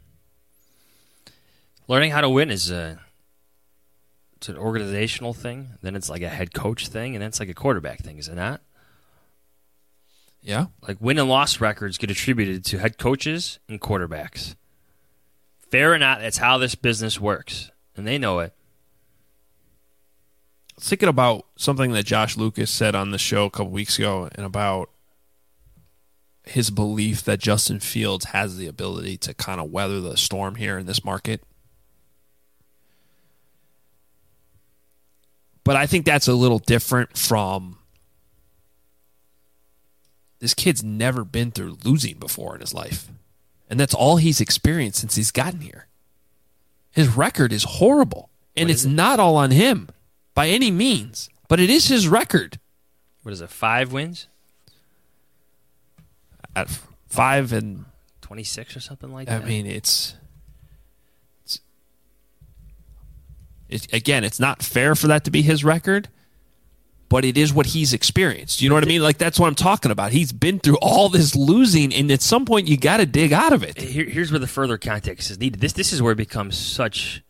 Learning how to win is it's an organizational thing. Then it's like a head coach thing, and then it's like a quarterback thing, is it not? Yeah. Like win and loss records get attributed to head coaches and quarterbacks. Fair or not, that's how this business works. And they know it. I was thinking about something that Josh Lucas said on the show a couple weeks ago, and about his belief that Justin Fields has the ability to kind of weather the storm here in this market. But I think that's a little different from, this kid's never been through losing before in his life. And that's all he's experienced since he's gotten here. His record is horrible. And it's not all on him by any means. But it is his record. What is it, 5 wins? At 5 and 26 or something like that? I mean, it's again, it's not fair for that to be his record. But it is what he's experienced. You know what I mean? Like, that's what I'm talking about. He's been through all this losing, and at some point, you got to dig out of it. Here's where the further context is needed. This is where it becomes such.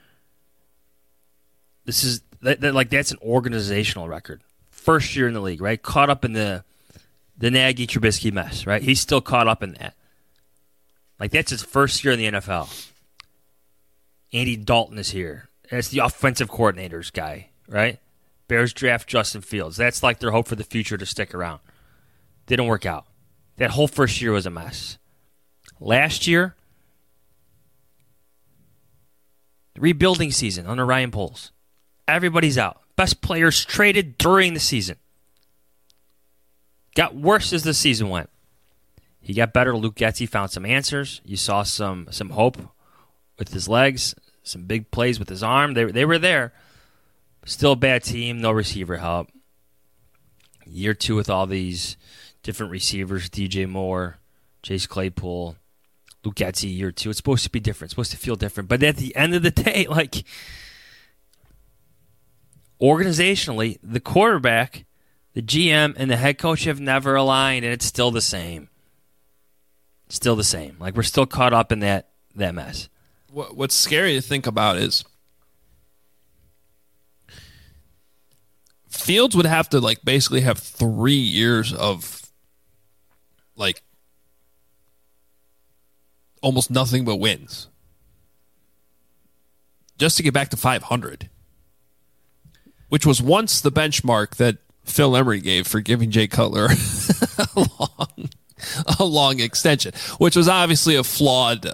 This is that's an organizational record. First year in the league, right? Caught up in the Nagy Trubisky mess, right? He's still caught up in that. Like, that's his first year in the NFL. Andy Dalton is here. That's the offensive coordinator's guy, right? Bears draft Justin Fields. That's like their hope for the future to stick around. Didn't work out. That whole first year was a mess. Last year, the rebuilding season under Ryan Poles. Everybody's out. Best players traded during the season. Got worse as the season went. He got better. Luke Getsy found some answers. You saw some hope with his legs, some big plays with his arm. They were there. Still a bad team, no receiver help. Year 2 with all these different receivers, DJ Moore, Chase Claypool, Luke Getsy, year 2. It's supposed to be different. It's supposed to feel different. But at the end of the day, like, organizationally, the quarterback, the GM, and the head coach have never aligned, and it's still the same. Still the same. Like, we're still caught up in that mess. What's scary to think about is Fields would have to, like, basically have 3 years of, like, almost nothing but wins just to get back to 500, which was once the benchmark that Phil Emery gave for giving Jay Cutler a long extension, which was obviously a flawed,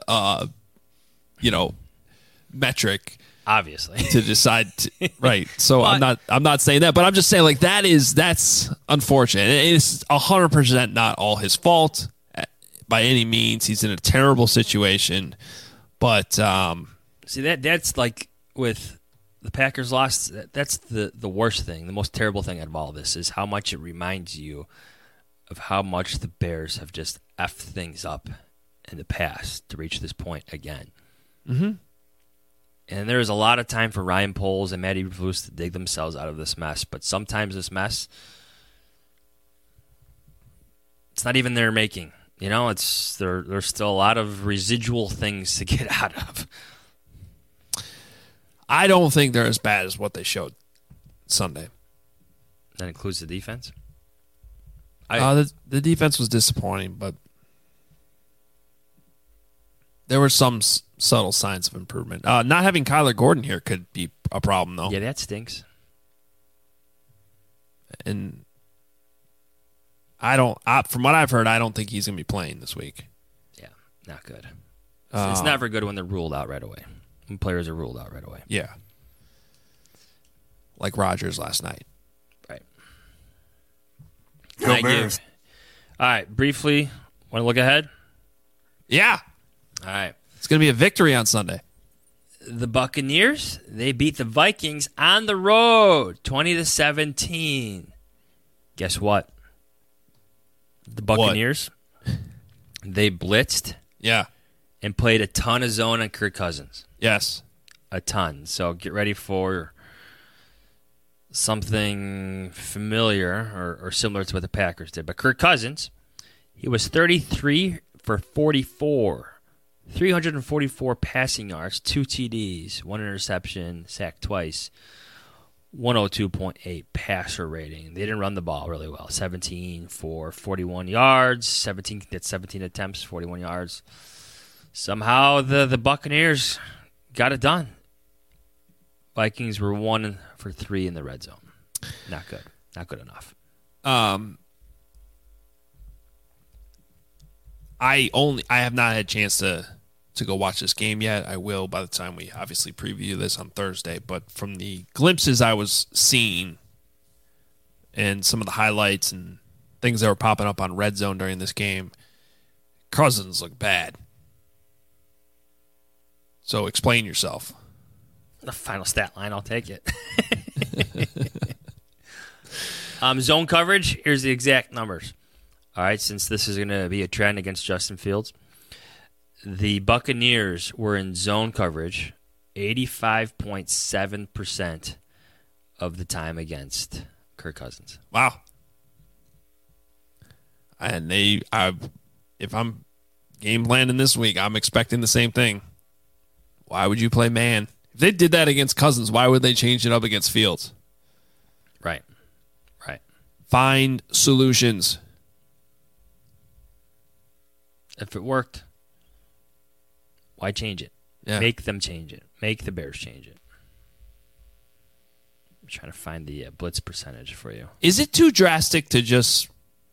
metric. Obviously, to decide, right? So but, I'm not saying that, but I'm just saying, like, that's unfortunate. It's 100% not all his fault by any means. He's in a terrible situation, but see that's like with the Packers lost. That's the worst thing, the most terrible thing out of all this is how much it reminds you of how much the Bears have just effed things up in the past to reach this point again. Mm-hmm. And there is a lot of time for Ryan Poles and Matty Eberflus to dig themselves out of this mess. But sometimes this mess, it's not even their making. You know, there's still a lot of residual things to get out of. I don't think they're as bad as what they showed Sunday. That includes the defense? The defense was disappointing, but there were some subtle signs of improvement. Not having Kyler Gordon here could be a problem, though. Yeah, that stinks. And from what I've heard, I don't think he's going to be playing this week. Yeah, not good. It's never good when they're ruled out right away. When players are ruled out right away. Yeah. Like Rodgers last night. Right. Go Bears. All right, briefly, want to look ahead? Yeah. All right. It's going to be a victory on Sunday. The Buccaneers, they beat the Vikings on the road, 20-17. Guess what? The Buccaneers, they blitzed. Yeah. And played a ton of zone on Kirk Cousins. Yes. A ton. So get ready for something familiar or similar to what the Packers did. But Kirk Cousins, he was 33 for 44. 344 passing yards, 2 TDs, 1 interception, sacked twice, 102.8 passer rating. They didn't run the ball really well. 17 for 41 yards, 17 attempts, 41 yards. Somehow the Buccaneers got it done. Vikings were 1 for 3 in the red zone. Not good. Not good enough. I have not had a chance to go watch this game yet. I will by the time we obviously preview this on Thursday. But from the glimpses I was seeing and some of the highlights and things that were popping up on Red Zone during this game, Cousins looked bad. So explain yourself. The final stat line, I'll take it. Zone coverage, here's the exact numbers. All right, since this is going to be a trend against Justin Fields, the Buccaneers were in zone coverage 85.7% of the time against Kirk Cousins. Wow. And if I'm game planning this week, I'm expecting the same thing. Why would you play man? If they did that against Cousins, why would they change it up against Fields? Right. Find solutions. If it worked, why change it? Yeah. Make them change it. Make the Bears change it. I'm trying to find the blitz percentage for you. Is it too drastic to just...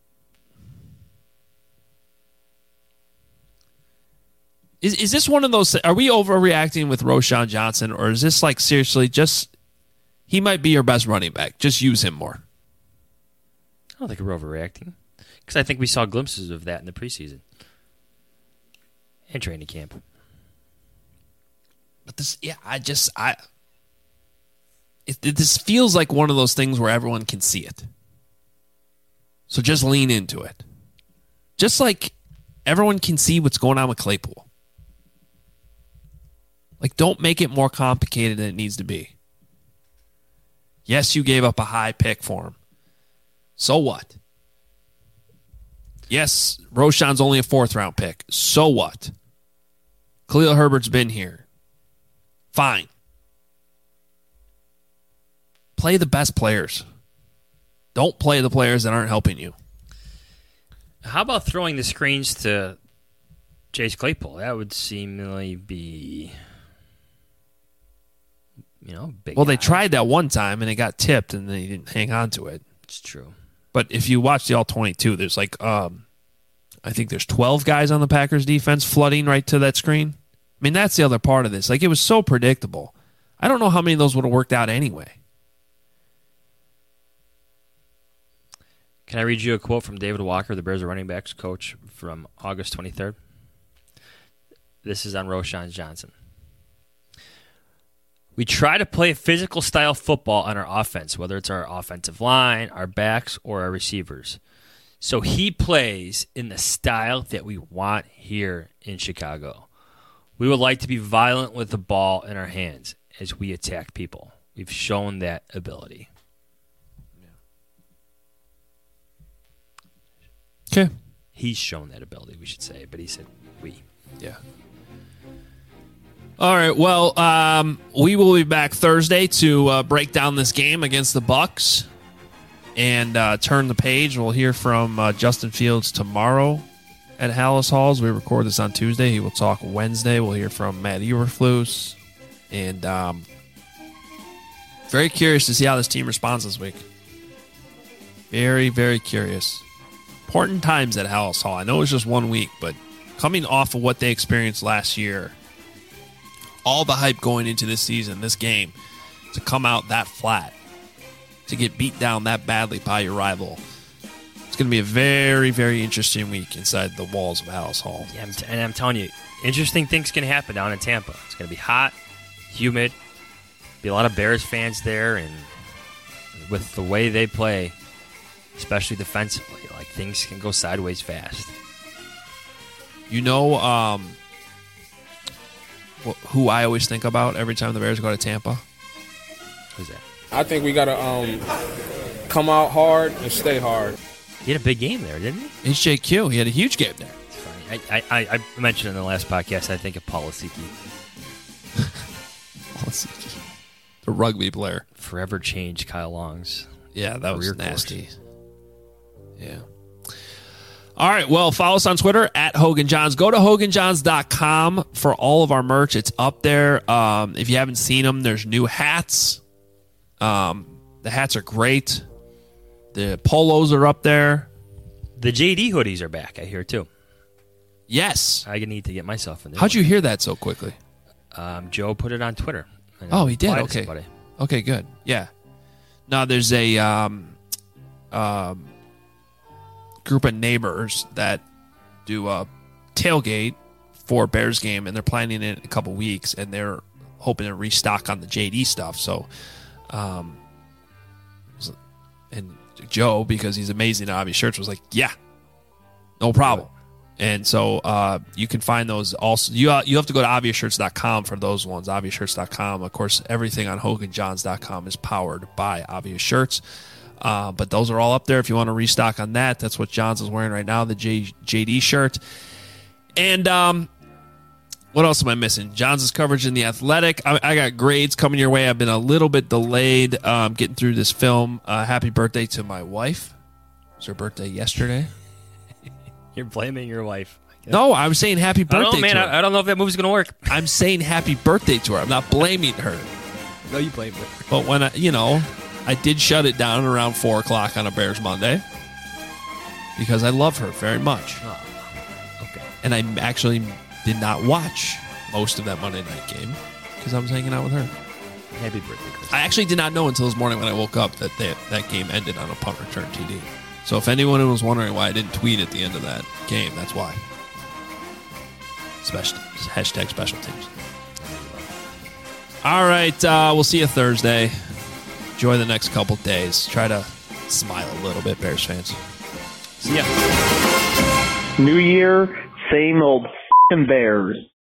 Is this one of those... Are we overreacting with Roschon Johnson, or is this like seriously just... He might be your best running back. Just use him more. I don't think we're overreacting. Because I think we saw glimpses of that in the preseason. And training camp. But this... Yeah, this feels like one of those things where everyone can see it. So just lean into it. Just like everyone can see what's going on with Claypool. Like, don't make it more complicated than it needs to be. Yes, you gave up a high pick for him. So what? Yes, Roschon's only a 4th-round pick. So what? Khalil Herbert's been here. Fine. Play the best players. Don't play the players that aren't helping you. How about throwing the screens to Chase Claypool? That would seemingly be... big Well, guy. they tried that one time, and it got tipped, and they didn't hang on to it. It's true. But if you watch the All-22, there's like, I think there's 12 guys on the Packers defense flooding right to that screen. I mean, that's the other part of this. Like, it was so predictable. I don't know how many of those would have worked out anyway. Can I read you a quote from David Walker, the Bears running backs coach, from August 23rd? This is on Roschon Johnson. We try to play a physical style football on our offense, whether it's our offensive line, our backs, or our receivers. So he plays in the style that we want here in Chicago. We would like to be violent with the ball in our hands as we attack people. We've shown that ability. Okay. He's shown that ability, we should say, but he said we. Yeah. All right. Well, we will be back Thursday to break down this game against the Bucs and turn the page. We'll hear from Justin Fields tomorrow at Hallis Halls. We record this on Tuesday. He will talk Wednesday. We'll hear from Matt Eberflus. And very curious to see how this team responds this week. Very, very curious. Important times at Hallis Hall. I know it's just 1 week, but coming off of what they experienced last year, all the hype going into this season, this game, to come out that flat, to get beat down that badly by your rival. It's going to be a very, very interesting week inside the walls of Hallis Hall. Yeah, and I'm telling you, interesting things can happen down in Tampa. It's going to be hot, humid, be a lot of Bears fans there, and with the way they play, especially defensively, like things can go sideways fast. You know who I always think about every time the Bears go to Tampa? Who's that? I think we got to come out hard and stay hard. He had a big game there, didn't he? HJQ. He had a huge game there. It's funny. I mentioned in the last podcast, I think of Paul Asiki. The rugby player. Forever changed Kyle Long's. Yeah, that was nasty. Course. Yeah. All right, well, follow us on Twitter at Hogan Johns. Go to HoganJohns.com for all of our merch. It's up there. If you haven't seen them, there's new hats. The hats are great. The polos are up there. The JD hoodies are back, I hear, too. Yes. I need to get myself in there. How'd you hear that so quickly? Joe put it on Twitter. Oh, he did? Okay. Okay, good. Yeah. Now, there's a group of neighbors that do a tailgate for Bears game, and they're planning it in a couple weeks, and they're hoping to restock on the JD stuff. So, and Joe, because he's amazing at Obvious Shirts, was like, yeah, no problem. And so you can find those also. You have to go to ObviousShirts.com for those ones, ObviousShirts.com. Of course, everything on HoganJohns.com is powered by Obvious Shirts. But those are all up there if you want to restock on that. That's what Johns is wearing right now, the JD shirt. And what else am I missing? Johns' coverage in The Athletic. I got grades coming your way. I've been a little bit delayed getting through this film. Happy birthday to my wife. It was her birthday yesterday. You're blaming your wife. No, I was saying happy birthday to her. I don't know if that movie's going to work. I'm saying happy birthday to her. I'm not blaming her. No, you blame her. But when I did shut it down around 4 o'clock on a Bears Monday because I love her very much. Oh, okay. And I actually did not watch most of that Monday night game because I was hanging out with her. Happy birthday, Chris. I actually did not know until this morning when I woke up that that game ended on a punt return TD. So if anyone was wondering why I didn't tweet at the end of that game, that's why. Hashtag special teams. All right, we'll see you Thursday. Enjoy the next couple days. Try to smile a little bit, Bears fans. See ya. New year, same old Bears.